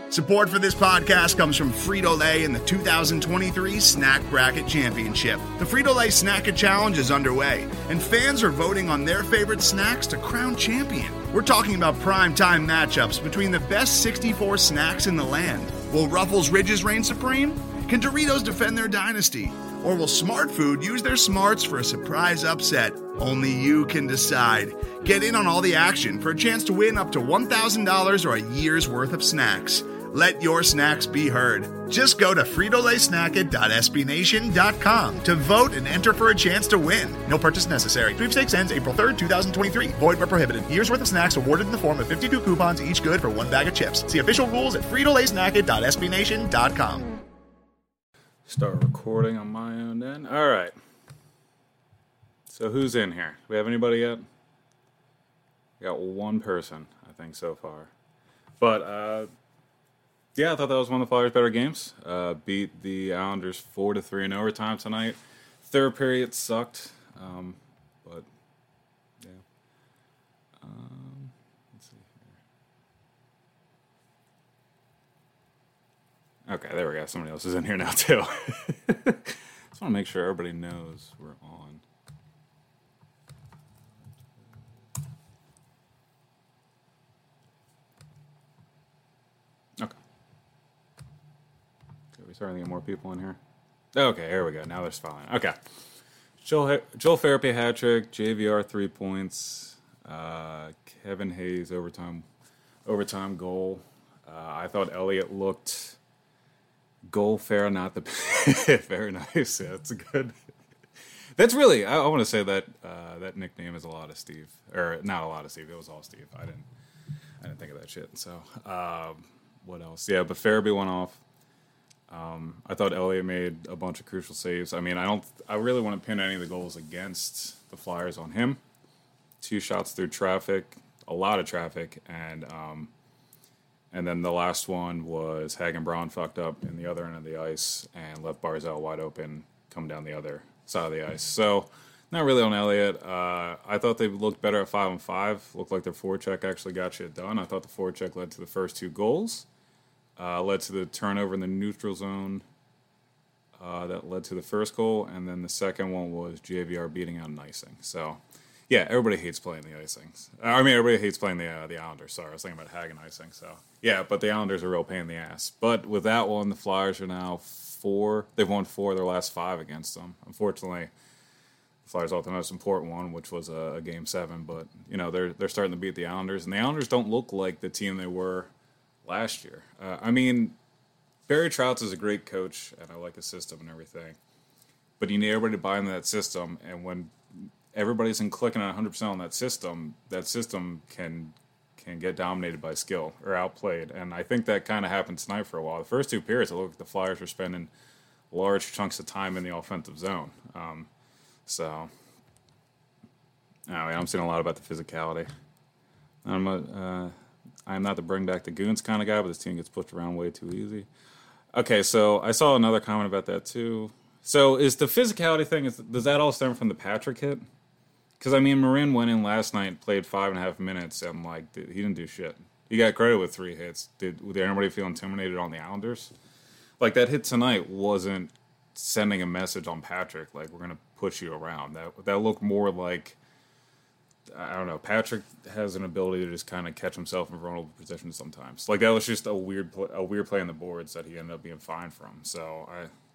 Support for this podcast comes from Frito-Lay and the 2023 Snack Bracket Championship. The Frito-Lay Snack-It Challenge is underway, and fans are voting on their favorite snacks to crown champion. We're talking about prime-time matchups between the best 64 snacks in the land. Will Ruffles Ridges reign supreme? Can Doritos defend their dynasty? Or will Smart Food use their smarts for a surprise upset? Only you can decide. Get in on all the action for a chance to win up to $1,000 or a year's worth of snacks. Let your snacks be heard. Just go to fritolaysnacket.sbnation.com to vote and enter for a chance to win. No purchase necessary. Sweepstakes ends April 3rd, 2023. Void where prohibited. Year's worth of snacks awarded in the form of 52 coupons, each good for one bag of chips. See official rules at fritolaysnacket.sbnation.com. Start recording on my own end. All right. So who's in here? Do we have anybody yet? We got one person, I think, so far. But, yeah, I thought that was one of the Flyers' better games. Beat the Islanders 4-3 in overtime tonight. Third period sucked, but yeah. Let's see here. Okay, there we go. Somebody else is in here now too. Just want to make sure everybody knows we're on. Okay. We're starting to get more people in here. Okay, here we go. Now there's fine. Okay. Joel Farabee hat trick, JVR 3 points, Kevin Hayes overtime goal. I thought Elliott looked goal fair, not the very nice. Yeah, that's good. That's really. I want to say that that nickname is a lot of Steve, or not a lot of Steve. It was all Steve. I didn't think of that shit. So what else? Yeah, but Farabee went off. I thought Elliott made a bunch of crucial saves. I mean, I really want to pin any of the goals against the Flyers on him. 2 shots through traffic, a lot of traffic, and then the last one was Hagen Braun fucked up in the other end of the ice and left Barzal wide open, come down the other side of the ice. So not really on Elliott. I thought they looked better at 5-on-5. Looked like their forecheck actually got shit done. I thought the forecheck led to the first 2 goals. Led to the turnover in the neutral zone that led to the first goal, and then the second one was JVR beating out an icing. So, yeah, everybody hates playing the icings. I mean, everybody hates playing the Islanders. Sorry, I was thinking about Hagen icing. So, yeah, but the Islanders are a real pain in the ass. But with that one, the Flyers are now 4. They've won 4 of their last 5 against them. Unfortunately, the Flyers lost the most important one, which was a Game 7. But, you know, they're starting to beat the Islanders, and the Islanders don't look like the team they were last year. I mean, Barry Trotz is a great coach, and I like his system and everything. But you need everybody to buy into that system, and when everybody's clicking at 100% on that system can get dominated by skill or outplayed. And I think that kind of happened tonight for a while. The first 2 periods, it looked like the Flyers were spending large chunks of time in the offensive zone. So, anyway, I'm seeing a lot about the physicality. I'm not the bring back the goons kind of guy, but this team gets pushed around way too easy. Okay, so I saw another comment about that too. So is the physicality thing, does that all stem from the Patrick hit? Because, I mean, Marin went in last night and played 5.5 minutes, and, like, he didn't do shit. He got credit with 3 hits. Did anybody feel intimidated on the Islanders? Like, that hit tonight wasn't sending a message on Patrick, like, we're going to push you around. That looked more like, I don't know, Patrick has an ability to just kind of catch himself in vulnerable positions sometimes. Like, that was just a weird play on the boards that he ended up being fined from. So,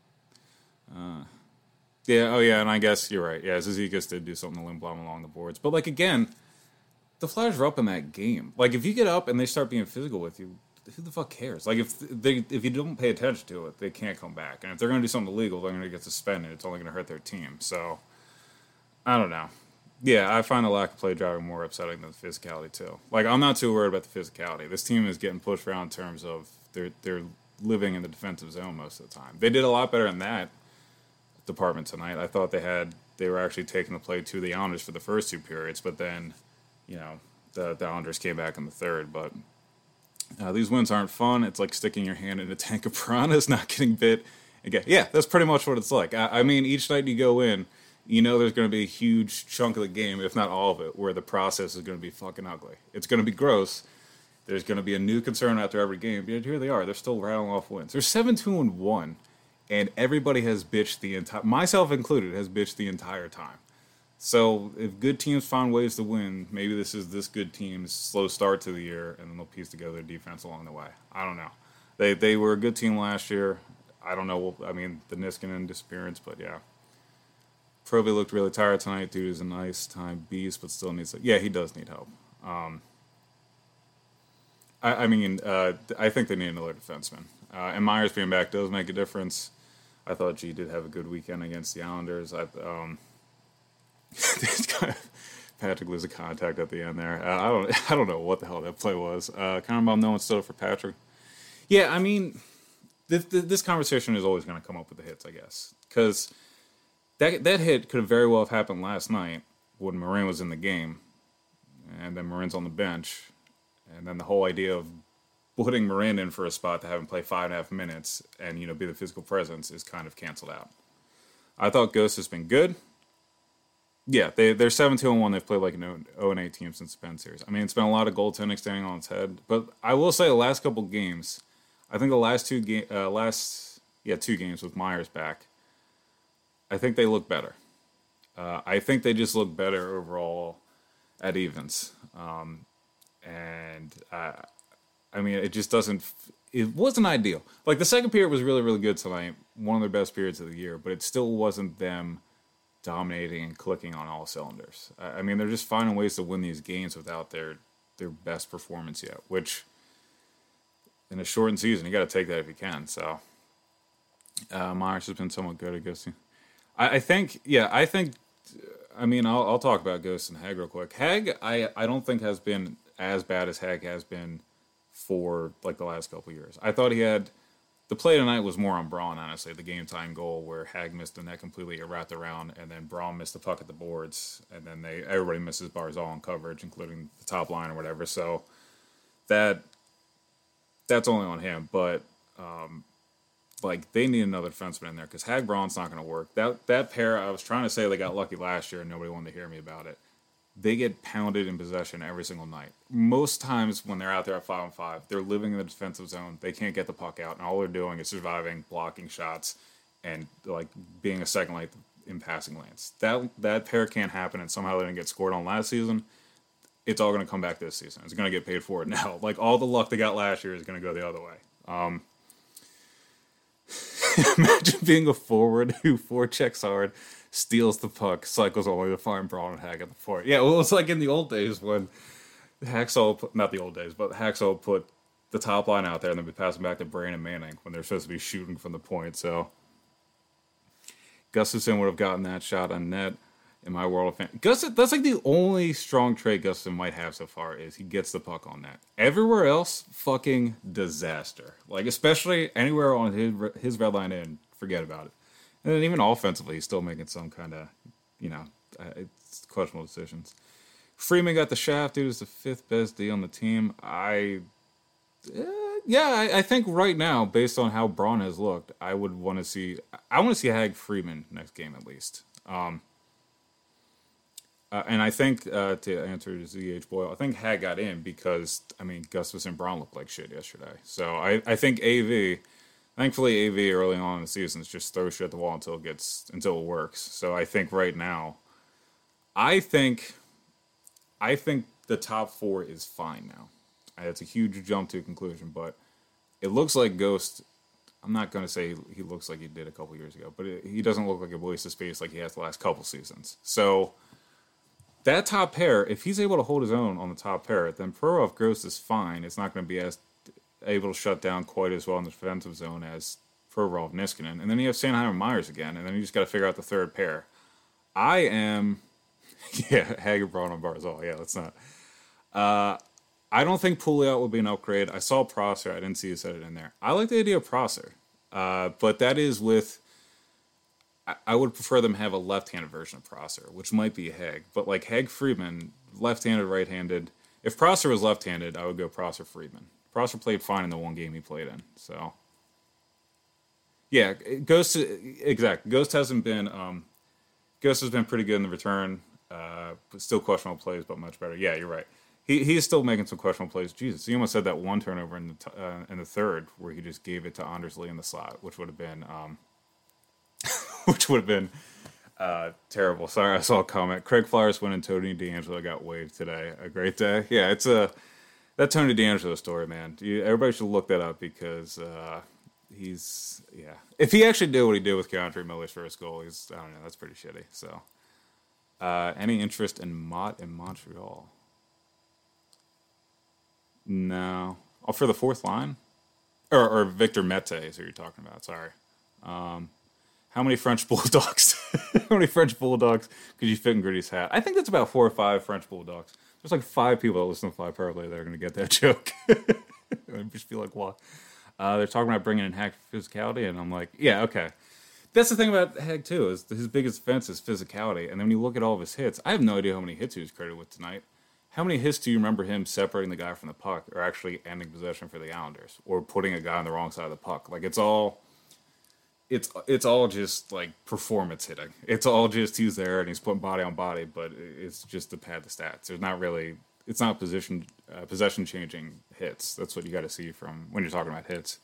yeah, oh yeah, and I guess you're right. Yeah, Zizekas did do something to Lindblom along the boards. But, like, again, the Flyers are up in that game. Like, if you get up and they start being physical with you, who the fuck cares? Like, if you don't pay attention to it, they can't come back. And if they're going to do something illegal, they're going to get suspended. It's only going to hurt their team. So, I don't know. Yeah, I find the lack of play driving more upsetting than the physicality, too. Like, I'm not too worried about the physicality. This team is getting pushed around in terms of they're living in the defensive zone most of the time. They did a lot better in that department tonight. I thought they were actually taking the play to the Islanders for the first 2 periods, but then, you know, the Islanders came back in the third. But these wins aren't fun. It's like sticking your hand in a tank of piranhas, not getting bit. Again, yeah, that's pretty much what it's like. I mean, each night you go in, you know there's going to be a huge chunk of the game, if not all of it, where the process is going to be fucking ugly. It's going to be gross, there's going to be a new concern after every game. But here they are. They're still rattling off wins. They're 7-2-1, and everybody has bitched the entire, myself included, has bitched the entire time. So if good teams find ways to win, maybe this is this good team's slow start to the year, and then they'll piece together their defense along the way. I don't know. They were a good team last year. I don't know. I mean, the Niskanen disappearance, but yeah. Proby looked really tired tonight. Dude is a nice time beast, but still needs. Yeah, he does need help. I think they need another defenseman. And Myers being back does make a difference. I thought G did have a good weekend against the Islanders. Patrick loses contact at the end there. I don't know what the hell that play was. Kind of about no one stood up for Patrick. Yeah, I mean, this conversation is always going to come up with the hits, I guess, because that hit could have very well have happened last night when Marin was in the game, and then Marin's on the bench, and then the whole idea of putting Marin in for a spot to have him play 5.5 minutes and be the physical presence is kind of canceled out. I thought Ghost has been good. Yeah, they're 7-2-1. They've played like an 0-8 team since the Penn series. I mean, it's been a lot of goaltending standing on its head. But I will say the last couple games, I think the last two games with Myers back, I think they look better. I think they just look better overall at evens. I mean, it just doesn't. It wasn't ideal. Like the second period was really, really good tonight. One of their best periods of the year, but it still wasn't them dominating and clicking on all cylinders. I mean, they're just finding ways to win these games without their best performance yet, which in a shortened season, you got to take that if you can. So Myers has been somewhat good, I guess. I think, I mean, I'll talk about Ghost and Hag real quick. Hag, I don't think has been as bad as Hag has been for like the last couple years. I thought he had. The play tonight was more on Braun, honestly. The game-time goal where Hag missed the net completely, it wrapped around, and then Braun missed the puck at the boards, and then everybody misses Barzal in coverage, including the top line or whatever. So that's only on him. But they need another defenseman in there because Hag Braun's not going to work. That pair, I was trying to say they got lucky last year, and nobody wanted to hear me about it. They get pounded in possession every single night. Most times when they're out there at 5-on-5, they're living in the defensive zone. They can't get the puck out, and all they're doing is surviving, blocking shots, and like being a second light in passing lanes. That pair can't happen, and somehow they didn't get scored on last season. It's all going to come back this season. It's going to get paid for it now. Like all the luck they got last year is going to go the other way. Imagine being a forward who forechecks hard, steals the puck, cycles all the way to find Braun and Hag at the point. Yeah, well, it's like in the old days when not the old days, but Hacksaw put the top line out there and then be passing back to Brain and Manning when they're supposed to be shooting from the point. So Gustafsson would have gotten that shot on net in my world of fantasy. That's like the only strong trait Gustafsson might have so far is he gets the puck on net. Everywhere else, fucking disaster. Like, especially anywhere on his red line end, forget about it. And then even offensively, he's still making some kind of, it's questionable decisions. Freeman got the shaft. Dude is the 5th best D on the team. I think right now, based on how Braun has looked, I want to see Hag Freeman next game at least. And I think, to answer ZH Boyle, I think Hag got in because, Gustafsson and Braun looked like shit yesterday. So I think thankfully AV early on in the season is just throw shit at the wall until it works. So I think right now, I think the top 4 is fine now. It's a huge jump to conclusion, but it looks like Ghost. I'm not going to say he looks like he did a couple years ago, but he doesn't look like a waste of space like he has the last couple seasons. So that top pair, if he's able to hold his own on the top pair, then Provorov Ghost is fine. It's not going to be as able to shut down quite as well in the defensive zone as Provorov Niskanen. And then you have Sanheim and Myers again, and then you just got to figure out the third pair. Hager, Braun, and Barzal. Yeah, let's not. I don't think Pouliot would be an upgrade. I saw Prosser. I didn't see you said it in there. I like the idea of Prosser. But that is with... I would prefer them have a left-handed version of Prosser, which might be Hag. But like Hag Friedman, left-handed, right-handed. If Prosser was left-handed, I would go Prosser Friedman. Prosser played fine in the one game he played in. So, yeah, Ghost hasn't been... Ghost has been pretty good in the return. But still questionable plays, but much better. Yeah, you're right. he's still making some questionable plays. Jesus, he almost had that one turnover in the third where he just gave it to Anders Lee in the slot, which would have been terrible. Sorry, I saw a comment. Craig Flowers went and Tony D'Angelo got waived today. A great day. Yeah, it's that Tony D'Angelo story, man. Everybody should look that up because if he actually did what he did with Keandre Miller's first goal, I don't know, that's pretty shitty. So, any interest in Mott in Montreal? No. Oh, for the fourth line? Or Victor Mete is who you're talking about. Sorry. How many French Bulldogs? How many French Bulldogs could you fit in Gritty's hat? I think that's about 4 or 5 French Bulldogs. There's like 5 people that listen to Fly Parlay that are going to get that joke. I just feel like, what? They're talking about bringing in Hag physicality, and I'm like, yeah, okay. That's the thing about Hag, too, is his biggest defense is physicality. And then when you look at all of his hits, I have no idea how many hits he was credited with tonight. How many hits do you remember him separating the guy from the puck or actually ending possession for the Islanders or putting a guy on the wrong side of the puck? Like, it's all just, like, performance hitting. It's all just he's there and he's putting body on body, but it's just to pad the stats. There's not really... It's not possession-changing hits. That's what you got to see from when you're talking about hits.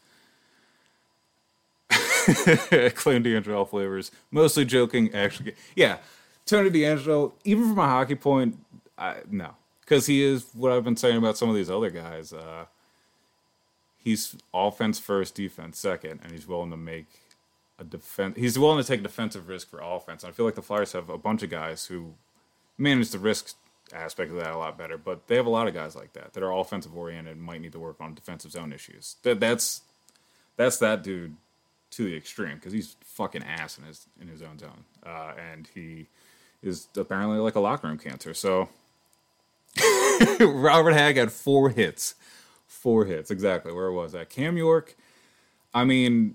Claim D'Angelo flavors. Mostly joking, actually. Yeah, Tony D'Angelo, even from a hockey point, no. Because he is what I've been saying about some of these other guys. He's offense first, defense second, and he's willing to make a defense. He's willing to take defensive risk for offense. And I feel like the Flyers have a bunch of guys who manage the risk aspect of that a lot better, but they have a lot of guys like that are offensive oriented and might need to work on defensive zone issues. That's that dude to the extreme because he's fucking ass in his own zone, and he is apparently like a locker room cancer. So Robert Hagg had 4 hits. 4 hits, exactly. Where was that? Cam York, I mean,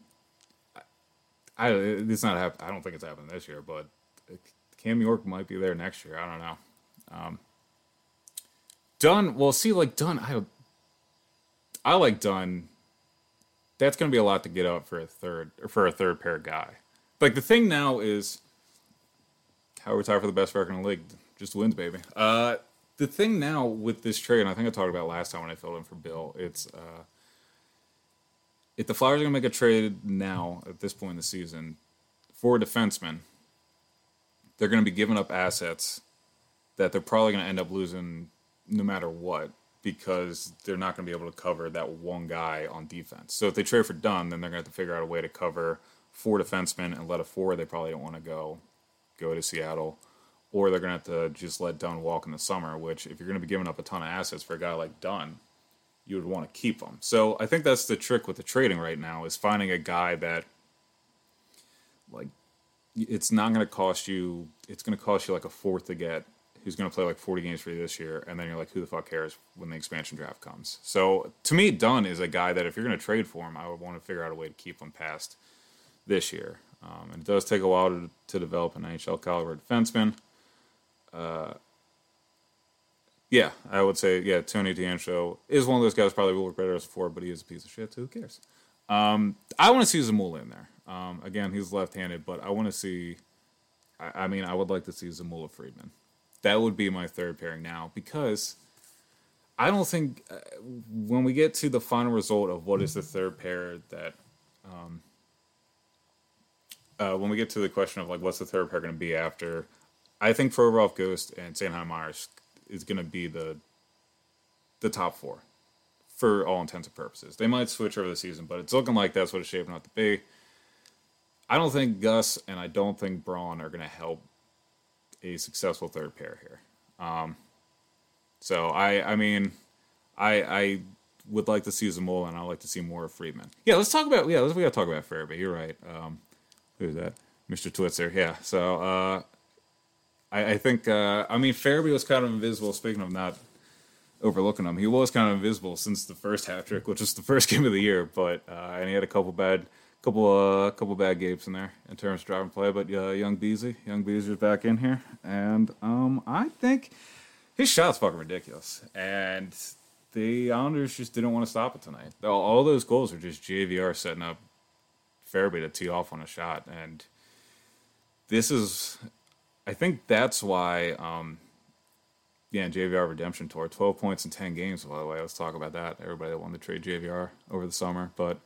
it's not I don't think it's happening this year, but Cam York might be there next year. I don't know. Dunn, well, see, like Dunn, I like Dunn. That's going to be a lot to get up for a third pair guy. Like the thing now is how we retire for the best record in the league, just wins, baby. The thing now with this trade, and I think I talked about last time when I filled in for Bill, it's if the Flyers are going to make a trade now at this point in the season for a defenseman, they're going to be giving up assets that they're probably going to end up losing no matter what because they're not going to be able to cover that one guy on defense. So if they trade for Dunn, then they're going to have to figure out a way to cover 4 defensemen and let a 4 they probably don't want to go to Seattle. Or they're going to have to just let Dunn walk in the summer, which if you're going to be giving up a ton of assets for a guy like Dunn, you would want to keep him. So I think that's the trick with the trading right now is finding a guy that, like, it's not going to cost you, it's going to cost you like a 4th to get, who's going to play like 40 games for you this year, and then you're like, who the fuck cares when the expansion draft comes? So, to me, Dunn is a guy that if you're going to trade for him, I would want to figure out a way to keep him past this year. And it does take a while to develop an NHL caliber defenseman. Yeah, I would say, yeah, Tony D'Angelo is one of those guys probably will work better as a forward, but he is a piece of shit, so who cares? I want to see Zamula in there. Again, he's left-handed, but I want to see, I would like to see Zamula Friedman. That would be my third pairing now because I don't think when we get to the final result of what is the third pair that when we get to the question of like what's the third pair going to be after, I think Provorov, Ghost, and Sanheim Myers is going to be the top 4 for all intents and purposes. They might switch over the season, but it's looking like that's what it's shaping up to be. I don't think Gus and I don't think Braun are going to help a successful third pair here. So I would like to see Zamula and I'd like to see more of Friedman. Yeah, we got to talk about Farabee. You're right. Who's that? Mr. Twitzer. Yeah. So I think Farabee was kind of invisible. Speaking of not overlooking him, he was kind of invisible since the first hat trick, which was the first game of the year. But and he had a couple bad games in there in terms of driving play. But Young Beezy's back in here, and I think his shot's fucking ridiculous. And the Islanders just didn't want to stop it tonight. All those goals are just JVR setting up Farabee to tee off on a shot, and this is. I think that's why Yeah, JVR Redemption Tour, 12 points in 10 games. By the way, let's talk about that. Everybody that wanted to trade JVR over the summer, but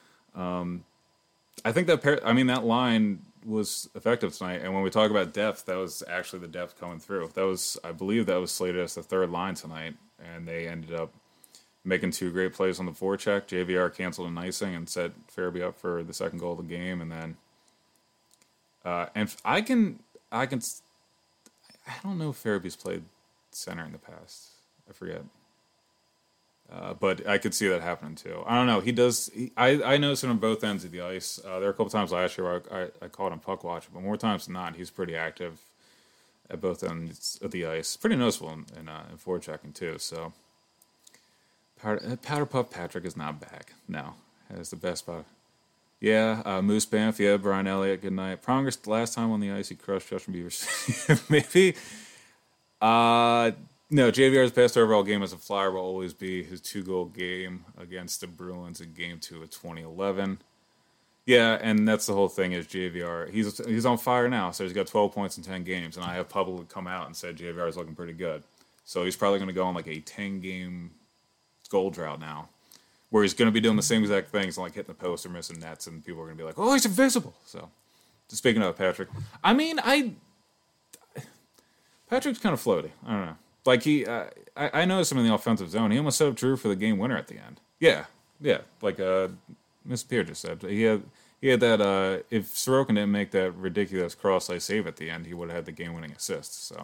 I think that line was effective tonight. And when we talk about depth, that was actually the depth coming through. I believe, that was slated as the third line tonight, and they ended up making two great plays on the forecheck. JVR canceled an icing and set Farabee up for the second goal of the game, and then I don't know if Farabee's played center in the past. I forget. But I could see that happening too. I don't know. He does. I noticed him on both ends of the ice. There were a couple times last year where I called him puck watcher, but more times than not, he's pretty active at both ends of the ice. Pretty noticeable in forechecking too. So Powder Puff Patrick is not back. No, has the best spot. Yeah, Moose Banff. Yeah, Brian Elliott. Good night. Pronger last time on the ice, he crushed Justin Bieber. Maybe. No, JVR's best overall game as a Flyer will always be his 2-goal game against the Bruins in Game 2 of 2011. Yeah, and that's the whole thing is JVR. He's on fire now, so he's got 12 points in 10 games, and I have publicly come out and said JVR is looking pretty good. So he's probably going to go on like a 10-game goal drought now, where he's going to be doing the same exact things, like hitting the post or missing nets, and people are going to be like, oh, he's invisible. So, speaking of Patrick, I mean, Patrick's kind of floaty. I don't know. Like I noticed him in the offensive zone. He almost set up Drew for the game winner at the end. Yeah. Like Miss Pierre just said, he had that. If Sorokin didn't make that ridiculous cross-ice save at the end, he would have had the game-winning assist. So,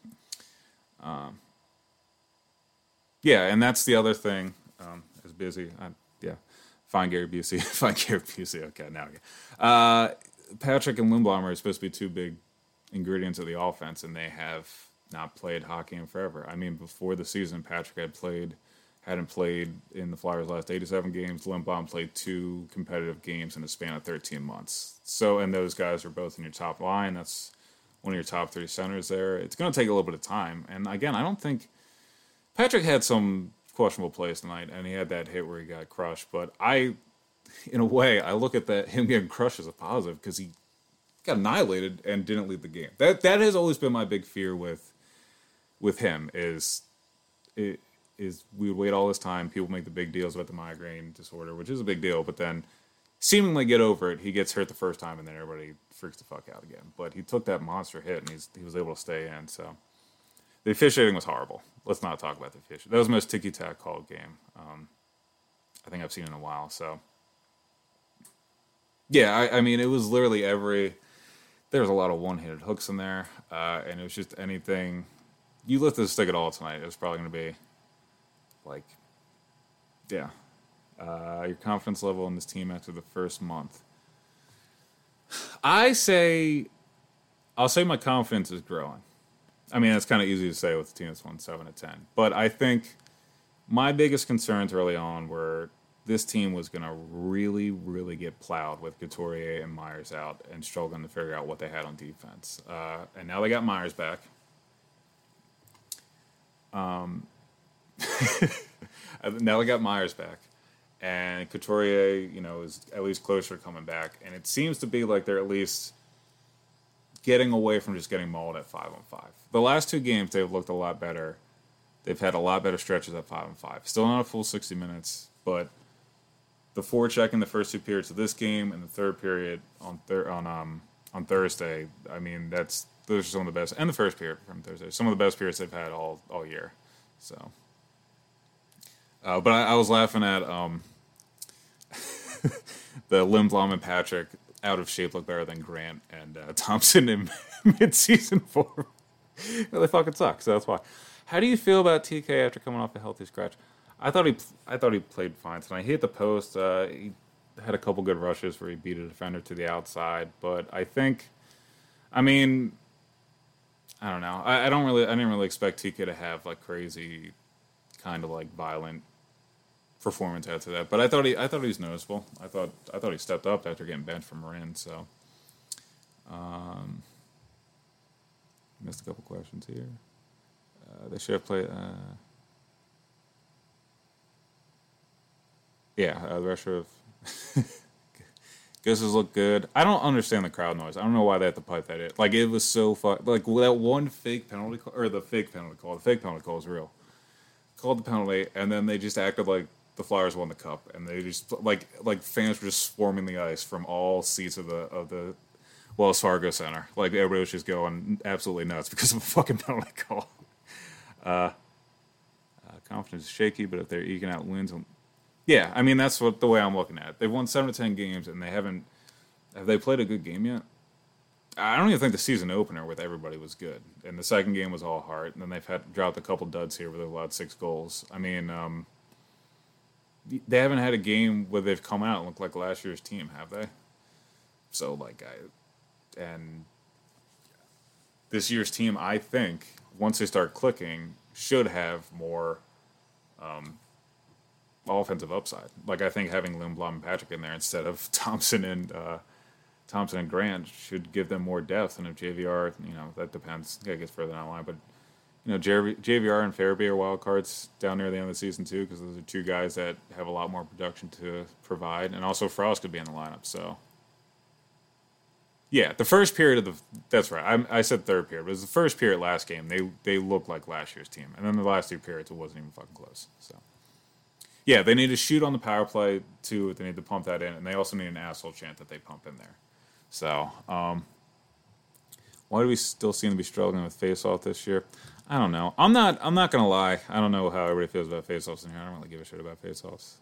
yeah, and that's the other thing. Is busy. Find Gary Busey. Find Gary Busey. Okay, now again. Patrick and Lindblom are supposed to be two big ingredients of the offense, and they have not played hockey in forever. I mean, before the season, Patrick hadn't played in the Flyers' last 87 games. Lindblom played 2 competitive games in a span of 13 months. So, and those guys are both in your top line. That's one of your top 3 centers there. It's going to take a little bit of time. And again, I don't think Patrick had some questionable plays tonight, and he had that hit where he got crushed. But in a way, I look at him getting crushed as a positive because he got annihilated and didn't lead the game. That has always been my big fear with him is we would wait all this time. People make the big deals about the migraine disorder, which is a big deal, but then seemingly get over it. He gets hurt the first time, and then everybody freaks the fuck out again. But he took that monster hit, and he was able to stay in. So the officiating was horrible. Let's not talk about the officiating. That was the most ticky-tack called game I think I've seen in a while. So yeah, I mean, it was literally there was a lot of one-handed hooks in there, and it was just anything. You lift the stick at all tonight, it was probably going to be like, yeah, your confidence level in this team after the first month. I'll say my confidence is growing. I mean, that's kind of easy to say with a team that's won 7 of 10. But I think my biggest concerns early on were this team was going to really, really get plowed with Couturier and Myers out and struggling to figure out what they had on defense. And now they got Myers back. Now they got Myers back. And Couturier, is at least closer to coming back. And it seems to be like they're at least getting away from just getting mauled at 5-on-5. The last 2 games, they've looked a lot better. They've had a lot better stretches at 5-on-5. Still not a full 60 minutes, but the forecheck in the first 2 periods of this game and the third period on Thursday, I mean, those are some of the best. And the first period from Thursday, some of the best periods they've had all year. So, but I was laughing at the Lindblom and Patrick out of shape look better than Grant and Thompson in mid-season form. They fucking suck, so that's why. How do you feel about TK after coming off a healthy scratch? I thought he played fine tonight. He hit the post. He had a couple good rushes where he beat a defender to the outside, but I don't know. I didn't really expect TK to have like crazy, kind of like violent performance after that. But I thought he was noticeable. I thought he stepped up after getting benched from Marin. So, missed a couple questions here. They should have played. The rest of Guesses look good. I don't understand the crowd noise. I don't know why they have to pipe that in. Like, it was so fun. Like, that one fake penalty call, or the fake penalty call. The fake penalty call is real. Called the penalty, and then they just acted like the Flyers won the cup, and they just like fans were just swarming the ice from all seats of the Wells Fargo Center. Like, everybody was just going absolutely nuts because of a fucking penalty call. Confidence is shaky, but if they're eking out wins, yeah, I mean that's the way I'm looking at it. They've won 7 to 10 games, and they haven't. Have they played a good game yet? I don't even think the season opener with everybody was good, and the second game was all heart. And then they've had dropped a couple duds here where they've allowed 6 goals. I mean, they haven't had a game where they've come out and looked like last year's team, have they? So and this year's team, I think, once they start clicking, should have more offensive upside. Like, I think having Lindblom and Patrick in there instead of Thompson and Grant should give them more depth. And if JVR, that depends. I guess further down the line, but JVR and Farabee are wild cards down near the end of the season too, because those are 2 guys that have a lot more production to provide, and also Frost could be in the lineup. So, yeah, the first period that's right. I said third period, but it was the first period last game. They looked like last year's team, and then the last 2 periods it wasn't even fucking close. So, yeah, they need to shoot on the power play too. They need to pump that in, and they also need an asshole chant that they pump in there. So, why do we still seem to be struggling with face-off this year? I don't know. I'm not gonna lie. I don't know how everybody feels about face-offs in here. I don't really give a shit about face-offs.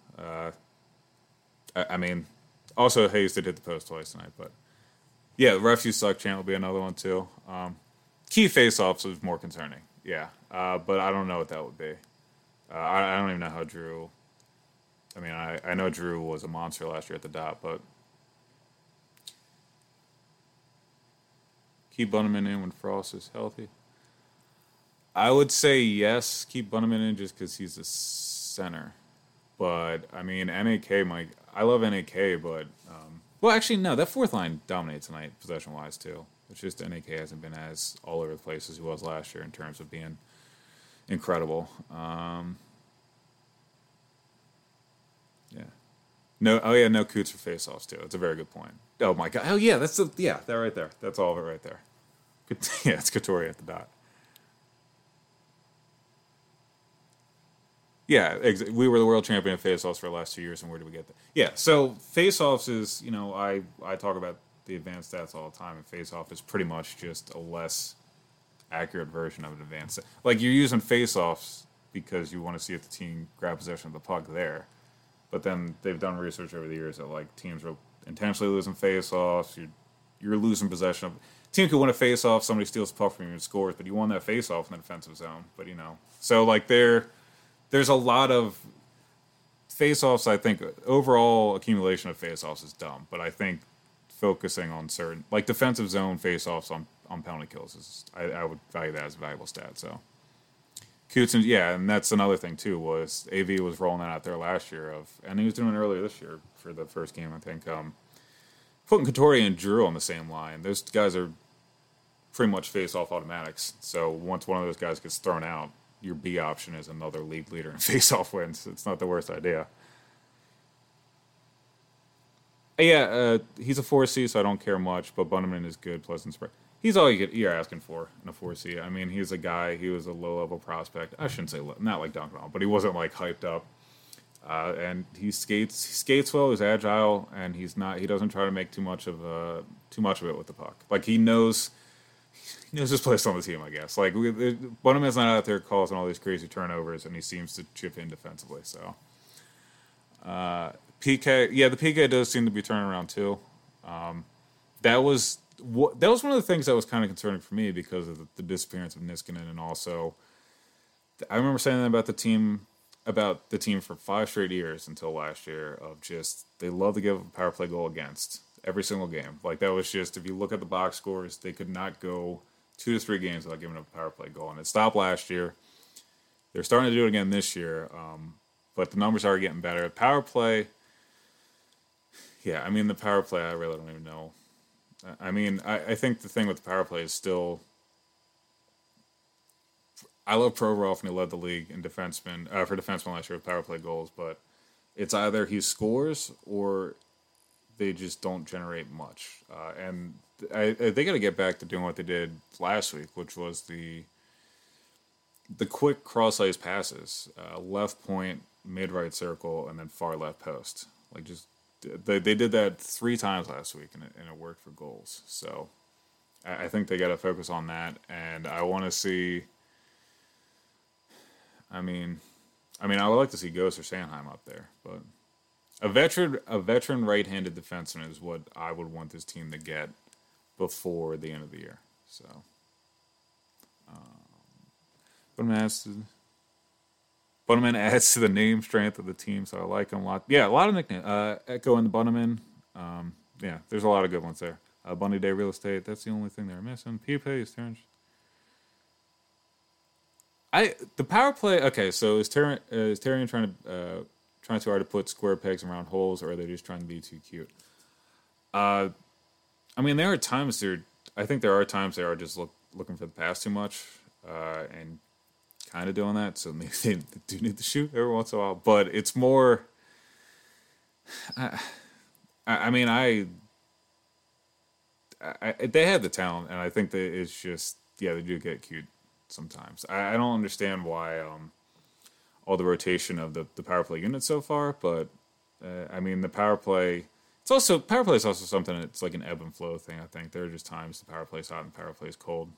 I mean, also Hayes did hit the post twice tonight, but yeah, the refs you suck chant will be another one too. Key face-offs is more concerning. Yeah, but I don't know what that would be. I don't even know how Drew. I mean, I know Drew was a monster last year at the dot, but keep Bunnaman in when Frost is healthy. I would say yes, keep Bunnaman in just because he's a center. But, I mean, NAK might... I love NAK, but... well, actually, no, that fourth line dominates tonight, possession-wise, too. It's just NAK hasn't been as all over the place as he was last year in terms of being incredible. Yeah. No Coots for face-offs, too. That's a very good point. Oh, my God. Oh, yeah, that right there. That's all of it right there. Yeah, it's Couturier at the dot. Yeah, we were the world champion of face-offs for the last 2 years, and where did we get that? Yeah, so face-offs is, I talk about the advanced stats all the time, and face-off is pretty much just a less accurate version of an advanced. Like, you're using face-offs because you want to see if the team grab possession of the puck there, but then they've done research over the years that, like, teams are intentionally losing face-offs, you're losing possession of... Team could win a face-off, somebody steals the puck from you and scores, but you won that face-off in the defensive zone, but, So, like, there's a lot of face-offs. I think overall accumulation of face-offs is dumb, but I think focusing on certain, like defensive zone face-offs on penalty kills is, I would value that as a valuable stat. So Coots, and that's another thing too, was AV was rolling that out there last year and he was doing it earlier this year for the first game, I think. Putting Couturier and Drew on the same line, those guys are pretty much face-off automatics. So once one of those guys gets thrown out, your B option is another league leader in face-off wins. It's not the worst idea. Yeah, he's a 4C, so I don't care much, but Bunnaman is good, pleasant spread. He's all you're asking for in a 4C. I mean, he's a guy, he was a low-level prospect. I shouldn't say not like Duncan, but he wasn't, like, hyped up. And he skates well, he's agile, and he doesn't try to make too much of it with the puck. Like, he knows his place on the team, I guess. Like, Bunnaman's not out there causing all these crazy turnovers, and he seems to chip in defensively. So, PK, the PK does seem to be turning around too. That was one of the things that was kind of concerning for me because of the disappearance of Niskanen, and also I remember saying that about the team for 5 straight years until last year of just they love to give a power play goal against every single game. Like, that was just, if you look at the box scores, they could not go 2 to 3 games without giving up a power play goal. And it stopped last year. They're starting to do it again this year, but the numbers are getting better. Power play, the power play, I really don't even know. I mean, I think the thing with the power play is still, I love Provorov, and he led the league in for defensemen last year with power play goals, but it's either he scores or they just don't generate much. And they got to get back to doing what they did last week, which was the quick cross-ice passes, left point, mid-right circle, and then far left post. Like, just they did that 3 times last week, and it worked for goals. So I think they got to focus on that, and I want to see. I mean, I would like to see Ghost or Sanheim up there, but a veteran right-handed defenseman is what I would want this team to get before the end of the year. So, Bunnaman adds to the name strength of the team, so I like him a lot. Yeah, a lot of nicknames. Echo and the Bunnaman. Yeah, there's a lot of good ones there. Bunny Day Real Estate. That's the only thing they're missing. Pipe is Terrence. The power play. Okay, so is Terrian trying too hard to put square pegs around holes, or are they just trying to be too cute? I mean, there are times I think there are times they are just looking for the pass too much, and kind of doing that. So maybe they do need to shoot every once in a while, but it's more. I mean, they have the talent, and I think that it's just they do get cute sometimes. I don't understand why all the rotation of the power play unit so far, but I mean the power play. Power play is also something. It's like an ebb and flow thing. I think there are just times the power play is hot and the power play is cold.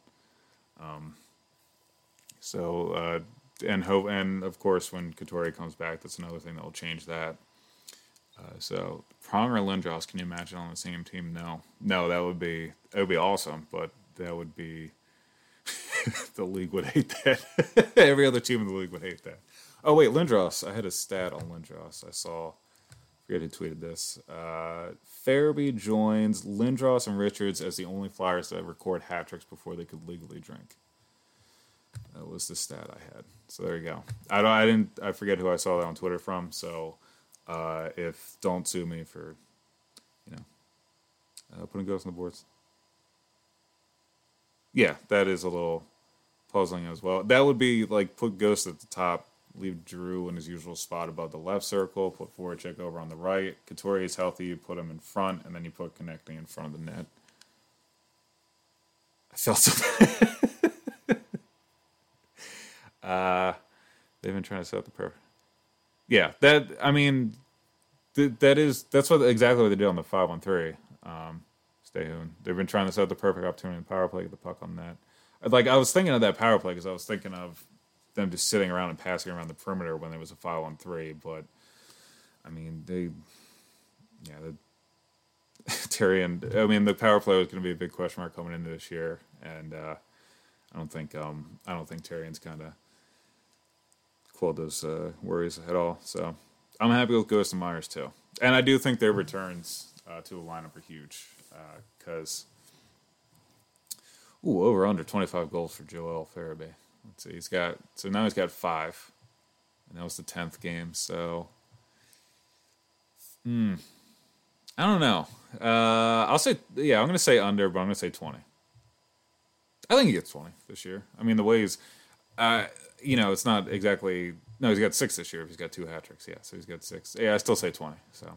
And of course when Couturier comes back, that's another thing that will change that. So Pronger and Lindros, can you imagine on the same team? No, that would be awesome, but that would be the league would hate that. Every other team in the league would hate that. Oh wait, Lindros. I had a stat on Lindros. I saw. I forget who tweeted this. Farabee joins Lindros and Richards as the only Flyers that record hat tricks before they could legally drink. That was the stat I had. So there you go. I forget who I saw that on Twitter from. So if don't sue me for, putting ghosts on the boards. Yeah, that is a little puzzling as well. That would be like put Ghost at the top, leave Drew in his usual spot above the left circle, put Voracek over on the right. Couturier is healthy, you put him in front, and then you put Connecting in front of the net. I felt so bad. They've been trying to set up the perfect. Yeah, that's exactly what they did on the 5-on-3. Stay tuned. They've been trying to set up the perfect opportunity in power play, get the puck on net. Like, I was thinking of that power play because I was thinking of them just sitting around and passing around the perimeter when there was a 5-on-3. But I mean, the power play was going to be a big question mark coming into this year, and I don't think Terrian's kind of quelled those worries at all. So I'm happy with Ghost and Myers too, and I do think their returns to the lineup are huge because over under 25 goals for Joel Farabee. Let's see, now he's got 5, and that was the 10th game. So I don't know. I'm going to say under, but I'm going to say 20. I think he gets 20 this year. I mean, the way he's, it's not exactly. No, he's got 6 this year. He's got 2 hat tricks. Yeah, so he's got 6. Yeah, I still say 20. So.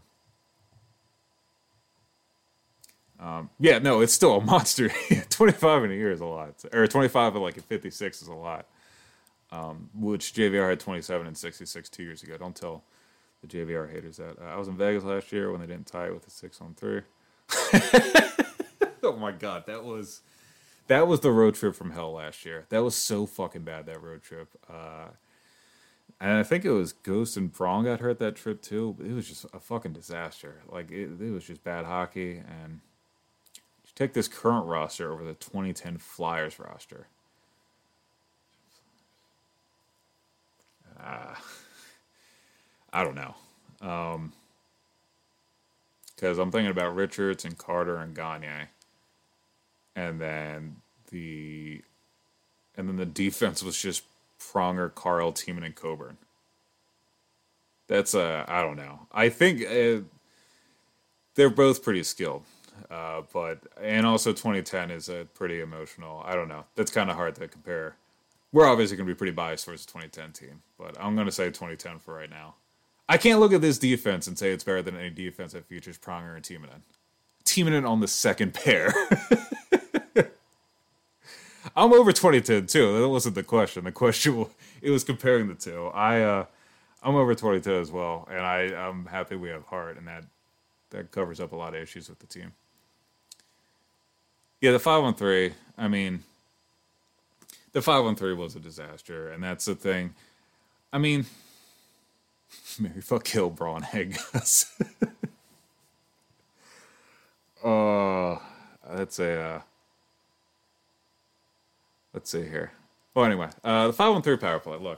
It's still a monster. 25 in a year is a lot. Or 25 at 56 is a lot. Which JVR had 27 and 66 2 years ago. Don't tell the JVR haters that. I was in Vegas last year when they didn't tie it with a 6-on-3. Oh my God, that was the road trip from hell last year. That was so fucking bad, that road trip. And I think it was Ghost and Prong got hurt that trip too. It was just a fucking disaster. Like, it was just bad hockey. And take this current roster over the 2010 Flyers roster. I don't know. Because I'm thinking about Richards and Carter and Gagne. And then the defense was just Pronger, Carl, Tiemann, and Coburn. That's I don't know. I think they're both pretty skilled. And also 2010 is a pretty emotional. I don't know. That's kind of hard to compare. We're obviously going to be pretty biased towards the 2010 team, but I'm going to say 2010 for right now. I can't look at this defense and say it's better than any defense that features Pronger and Timonen. Timonen on the second pair. I'm over 2010 too. That wasn't the question. The question it was comparing the two. I'm over 2010 as well, and I'm happy we have Hart, and that covers up a lot of issues with the team. Yeah, the 5-on-3. I mean, the 5-on-3 was a disaster, and that's the thing. I mean, Mary fuck kill Braun Egg. That's a. Let's see here. Well, anyway, the 5-on-3 power play. Look,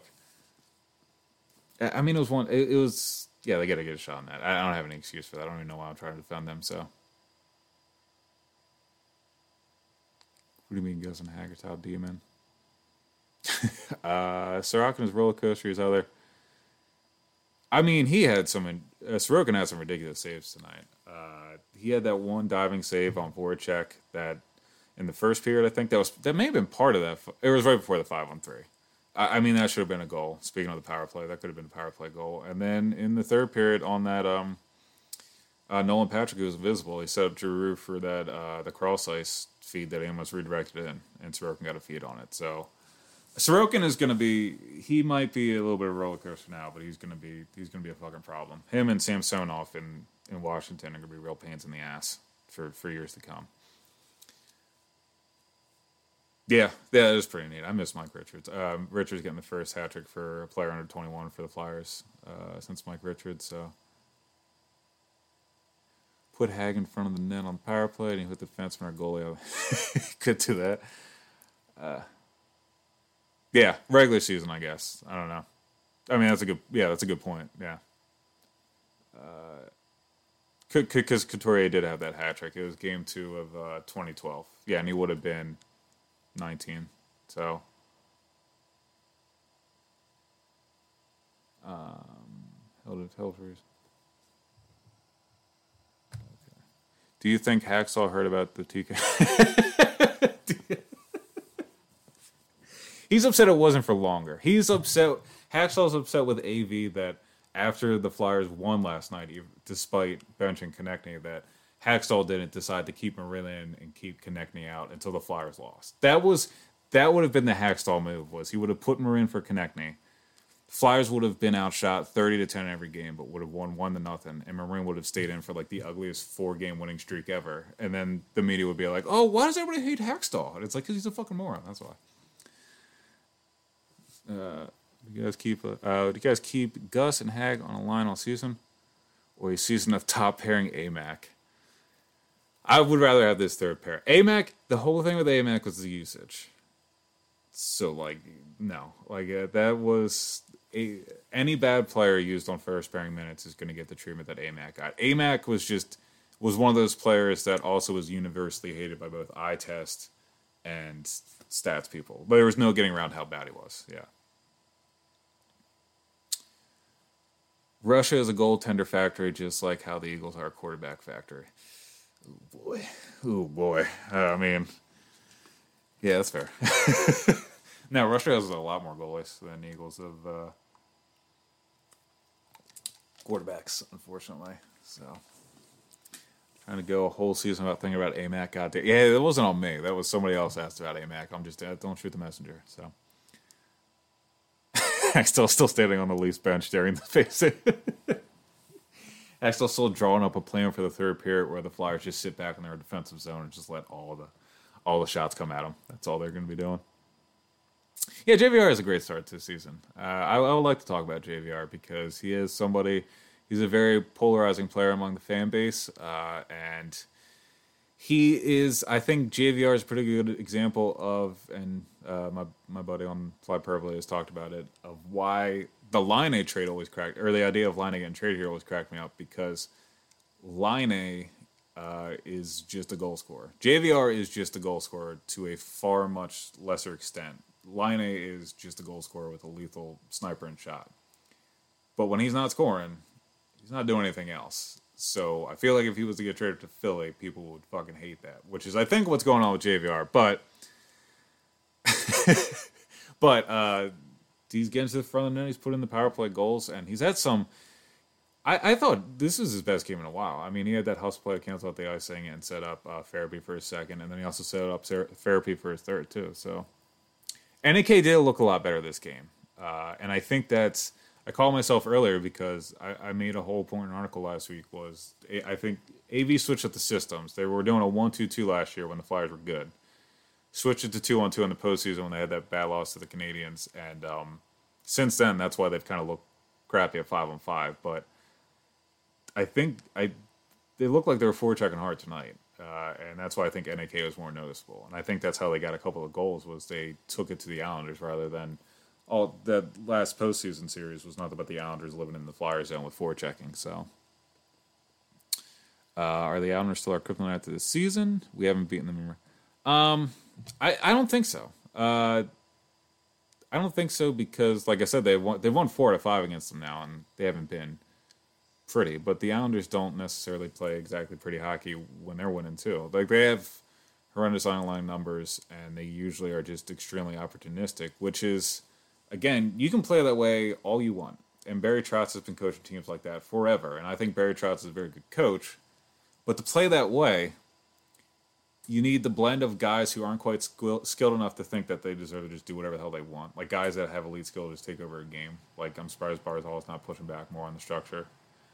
I mean, it was one. It was. Yeah, they got to get a shot on that. I don't have any excuse for that. I don't even know why I'm trying to defend them. So, what do you mean, Gus and Hager top demon? Sorokin's roller coaster is other. I mean, he had some. Sorokin had some ridiculous saves tonight. He had that one diving save on Voracek that in the first period. I think that may have been part of that. It was right before the 5-on-3. I mean, that should have been a goal. Speaking of the power play, that could have been a power play goal. And then in the third period on that, Nolan Patrick, who was invisible, he set up Giroux for that the cross ice feed that he almost redirected in, and Sorokin got a feed on it. So Sorokin is going to be. He might be a little bit of a roller coaster now, but he's going to be a fucking problem. Him and Samsonov in Washington are going to be real pains in the ass for years to come. Yeah, that is pretty neat. I miss Mike Richards. Richards getting the first hat trick for a player under 21 for the Flyers since Mike Richards. So put Hag in front of the net on the power play, and he hit the defenseman or goalie. Could do that. Yeah, regular season, I guess. I don't know. I mean, that's a good point. Yeah. Because Couturier did have that hat trick. It was game 2 of 2012. Yeah, and he would have been 19. So, Hilders. Okay. Do you think Hacksaw heard about the TK? He's upset it wasn't for longer. He's upset. Hacksaw's upset with AV that after the Flyers won last night, despite benching Konechny, that Hacksaw didn't decide to keep Marin in and keep Konechny out until the Flyers lost. That would have been the Hacksaw move. Was he would have put Marin for Konechny. Flyers would have been outshot 30-10 every game, but would have won 1-0, and Marin would have stayed in for like the ugliest 4-game winning streak ever. And then the media would be like, "Oh, why does everybody hate Hacksaw?" And it's like, because he's a fucking moron. That's why. Do you guys keep Gus and Hag on a line all season, or a season of top pairing AMAC? I would rather have this third pair. AMAC. The whole thing with AMAC was the usage. So no, that was any bad player used on first pairing minutes is going to get the treatment that AMAC got. AMAC was one of those players that also was universally hated by both eye test and stats people, but there was no getting around how bad he was. Yeah. Russia is a goaltender factory, just like how the Eagles are a quarterback factory. Oh boy. I mean, yeah, that's fair. Now, Russia has a lot more goalies than the Eagles of quarterbacks, unfortunately. So, trying to go a whole season without thinking about AMAC. Goddamn. Yeah, it wasn't on me. That was somebody else asked about AMAC. I'm just, don't shoot the messenger. So. Axtell still standing on the Leafs bench staring in the face. Axtell still drawing up a plan for the third period where the Flyers just sit back in their defensive zone and just let all the shots come at them. That's all they're going to be doing. Yeah, JVR is a great start to the season. I would like to talk about JVR because he is somebody. He's a very polarizing player among the fan base, and he is. I think JVR is a pretty good example of, and my buddy on Fly Purple has talked about it, of why the Laine trade always cracked, or the idea of Laine getting traded here always cracked me up, because Laine is just a goal scorer. JVR is just a goal scorer to a far much lesser extent. Laine is just a goal scorer with a lethal sniper and shot. But when he's not scoring, he's not doing anything else. So I feel like if he was to get traded to Philly, people would fucking hate that, which is, I think, what's going on with JVR. But he's getting to the front of the net. He's put in the power play goals, and he's had some I thought this was his best game in a while. I mean, he had that hustle play to cancel out the icing and set up Farabee for his second, and then he also set up Farabee for his third, too. So, NAK did look a lot better this game. And I think that's, I called myself earlier because I made a whole point in an article last week was, I think AV switched up the systems. They were doing a 1-2-2 last year when the Flyers were good. Switched it to 2-on-2 in the postseason when they had that bad loss to the Canadians. And since then, that's why they've kind of looked crappy at 5-on-5. But I think they looked like they were forechecking hard tonight. And that's why I think NAK was more noticeable. And I think that's how they got a couple of goals was they took it to the Islanders rather than all that last postseason series was not about the Islanders living in the Flyer zone with forechecking. So are the Islanders still our kryptonite after this season? We haven't beaten them. I don't think so. I don't think so because, like I said, they've won 4 out of 5 against them now, and they haven't been pretty. But the Islanders don't necessarily play exactly pretty hockey when they're winning too. Like they have horrendous underlying numbers, and they usually are just extremely opportunistic. Which is, again, you can play that way all you want. And Barry Trotz has been coaching teams like that forever, and I think Barry Trotz is a very good coach. But to play that way, you need the blend of guys who aren't quite skilled enough to think that they deserve to just do whatever the hell they want. Like guys that have elite skill to just take over a game. Like I'm surprised Barzal is not pushing back more on the structure.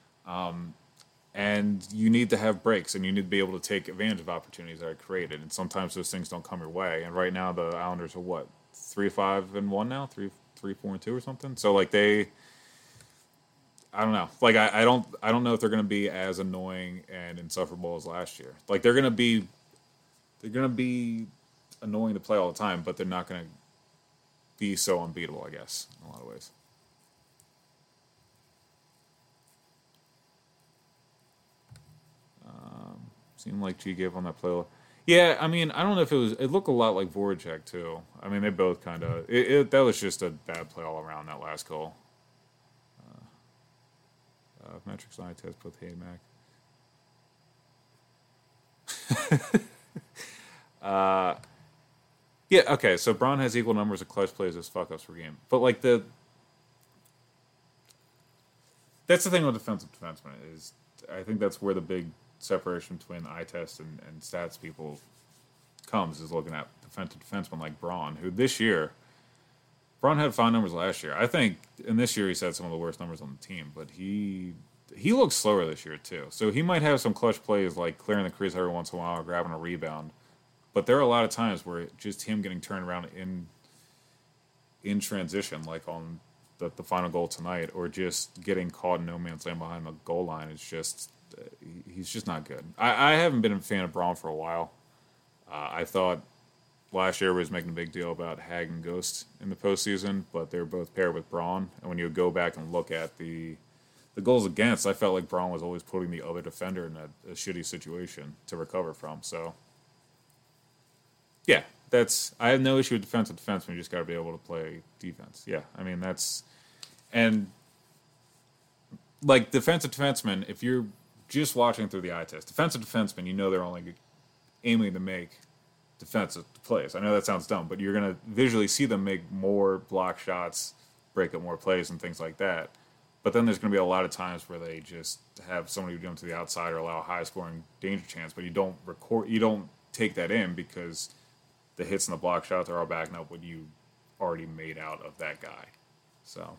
And you need to have breaks, and you need to be able to take advantage of opportunities that are created. And sometimes those things don't come your way. And right now the Islanders are what, 3-5-1 now, 3-4-2 or something. So like I don't know. Like I don't know if they're going to be as annoying and insufferable as last year. Like they're going to be annoying to play all the time, but they're not going to be so unbeatable, I guess, in a lot of ways. Seemed like G gave on that play. Yeah, I mean, I don't know if it looked a lot like Voracek, too. I mean, they both kind of, that was just a bad play all around, that last goal. Metrics line test, both Hay and Mac. Yeah, okay, so Braun has equal numbers of clutch plays as fuck-ups per game. But, like, that's the thing with defensive defensemen is I think that's where the big separation between eye test and stats people comes is looking at defensive defensemen like Braun, who this year, Braun had fine numbers last year. I think, and this year he's had some of the worst numbers on the team, but he looks slower this year too. So he might have some clutch plays like clearing the crease every once in a while or grabbing a rebound. But there are a lot of times where just him getting turned around in transition, like on the final goal tonight, or just getting caught in no man's land behind the goal line, is just he's just not good. I haven't been a fan of Braun for a while. I thought last year was making a big deal about Hag and Ghost in the postseason, but they're both paired with Braun. And when you go back and look at the goals against, I felt like Braun was always putting the other defender in a shitty situation to recover from. So, yeah, I have no issue with defensive defensemen. You just got to be able to play defense. Yeah, I mean, and like defensive defensemen, if you're just watching through the eye test, defensive defensemen, you know they're only aiming to make defensive plays. I know that sounds dumb, but you're going to visually see them make more block shots, break up more plays, and things like that. But then there's going to be a lot of times where they just have somebody jump to the outside or allow a high-scoring danger chance, but you don't take that in because the hits and the block shots are all backing up what you already made out of that guy. So,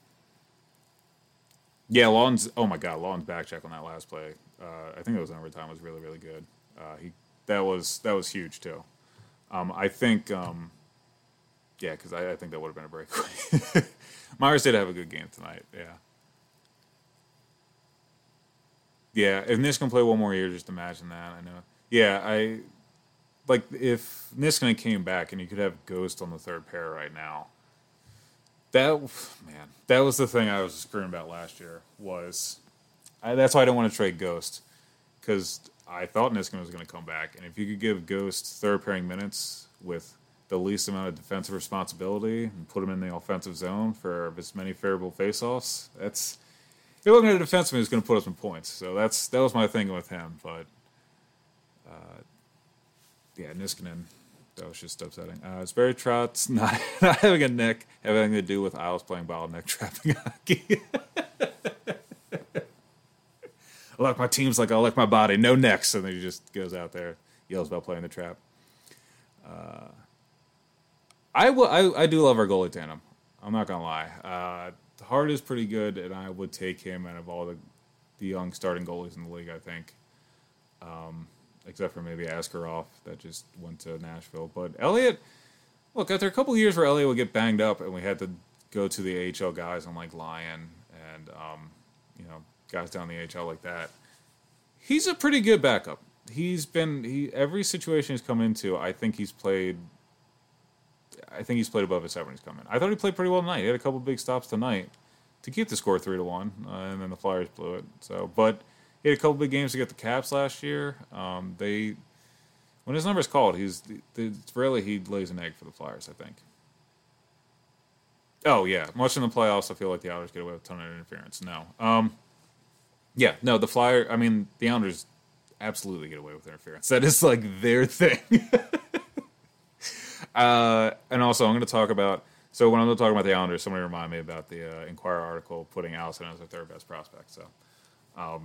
yeah, Lawton's back check on that last play. I think it was in overtime. Was really, really good. That was huge too. I think, because I think that would have been a breakaway. Myers did have a good game tonight. Yeah. If Niskanen play one more year, just imagine that. I know. Yeah, if Niskanen came back and you could have Ghost on the third pair right now. That was the thing I was screaming about last year. That's why I don't want to trade Ghost, because I thought Niskanen was going to come back, and if you could give Ghost third pairing minutes with the least amount of defensive responsibility and put him in the offensive zone for as many favorable faceoffs, you're looking at a defenseman who's going to put up some points. So that was my thing with him. But Niskanen, that was just upsetting. It's Barry Trotz not having a neck having anything to do with Isles playing bottleneck trapping hockey. I like my teams like I like my body. No necks. And then he just goes out there, yells about playing the trap. I do love our goalie tandem. I'm not going to lie. Hart is pretty good, and I would take him out of all the young starting goalies in the league, I think. Except for maybe Askarov that just went to Nashville. But Elliott, look, after a couple of years where Elliott would get banged up and we had to go to the AHL guys on like Lyon and, guys down the AHL like that, he's a pretty good backup. Every situation he's come into, I think he's played above his 70s coming. I thought he played pretty well tonight. He had a couple big stops tonight to keep the score 3-1, and then the Flyers blew it. But he had a couple big games to get the Caps last year. When his number's called, it's rarely he lays an egg for the Flyers, I think. Oh, yeah. Much in the playoffs, I feel like the Islanders get away with a ton of interference. No. The Islanders absolutely get away with interference. That is, like, their thing. And also, I'm going to talk about... So when I'm talking about the Islanders, somebody remind me about the Inquirer article putting Allison as their third best prospect. So, oh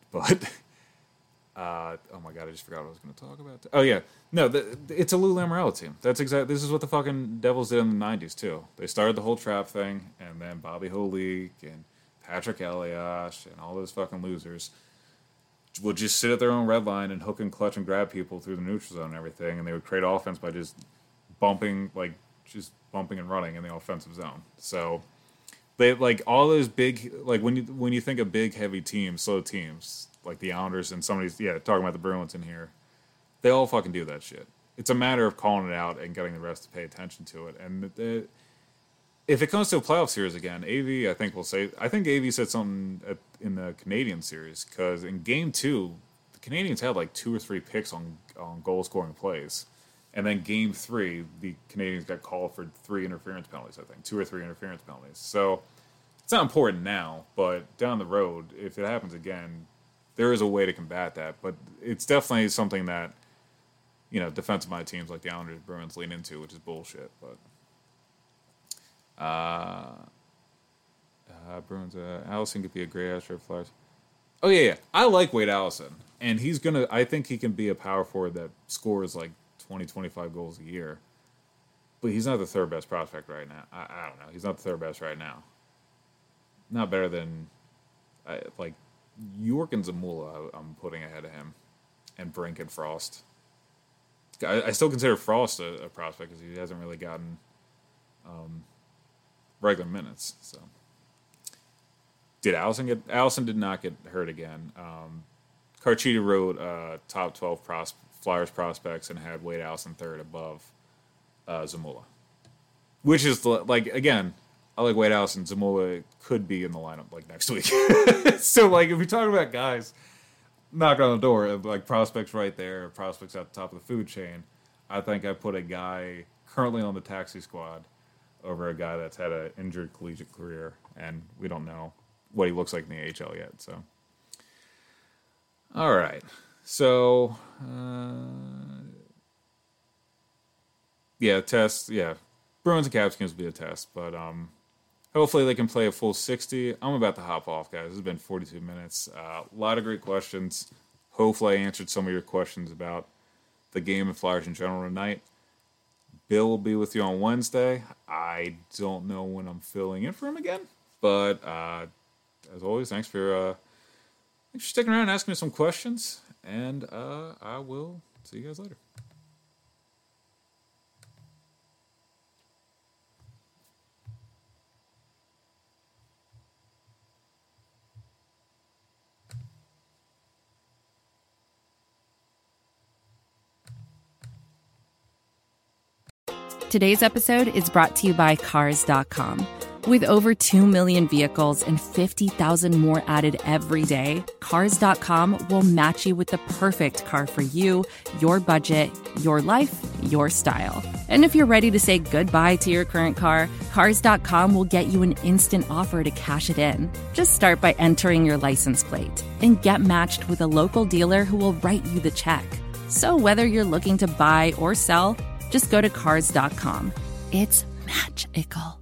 my God, I just forgot what I was going to talk about. Oh yeah, no, it's a Lou Lamoriello team. That's exactly. This is what the fucking Devils did in the '90s too. They started the whole trap thing, and then Bobby Holik and Patrick Elias and all those fucking losers would just sit at their own red line and hook and clutch and grab people through the neutral zone and everything, and they would create offense by just bumping and running in the offensive zone. So they like all those big, like when you think of big, heavy teams, slow teams like the Islanders and talking about the Bruins in here, they all fucking do that shit. It's a matter of calling it out and getting the rest to pay attention to it. And if it comes to a playoff series again, AV, I think AV said something in the Canadian series, because in Game 2, the Canadians had like 2 or 3 picks on goal scoring plays. And then Game 3, the Canadians got called for 3 interference penalties, I think. 2 or 3 interference penalties. So it's not important now, but down the road, if it happens again, there is a way to combat that. But it's definitely something that, defensive-minded teams like the Islanders, Bruins lean into, which is bullshit. But Bruins, Allison could be a great Astro Flyers. Oh, yeah. I like Wade Allison. And I think he can be a power forward that scores like 20, 25 goals a year. But he's not the third best prospect right now. I don't know. He's not the third best right now. Not better than, York and Zamula, I'm putting ahead of him. And Brink and Frost. I still consider Frost a prospect because he hasn't really gotten regular minutes. So, Allison did not get hurt again. Carchidi wrote top 12 Flyers prospects and had Wade Allison third above Zamula. Which is, again, I like Wade Allison. Zamula could be in the lineup, next week. So, if you're talking about guys knock on the door, prospects right there, prospects at the top of the food chain, I think I put a guy currently on the taxi squad over a guy that's had an injured collegiate career, and we don't know what he looks like in the AHL yet. So, all right. So, test. Yeah, Bruins and Caps games will be a test, but hopefully they can play a full 60. I'm about to hop off, guys. This has been 42 minutes. A lot of great questions. Hopefully I answered some of your questions about the game and Flyers in general tonight. Bill will be with you on Wednesday. I don't know when I'm filling in for him again, but as always, thanks for sticking around and asking me some questions, and I will see you guys later. Today's episode is brought to you by Cars.com. With over 2 million vehicles and 50,000 more added every day, Cars.com will match you with the perfect car for you, your budget, your life, your style. And if you're ready to say goodbye to your current car, Cars.com will get you an instant offer to cash it in. Just start by entering your license plate and get matched with a local dealer who will write you the check. So whether you're looking to buy or sell, just go to Cars.com. It's magical.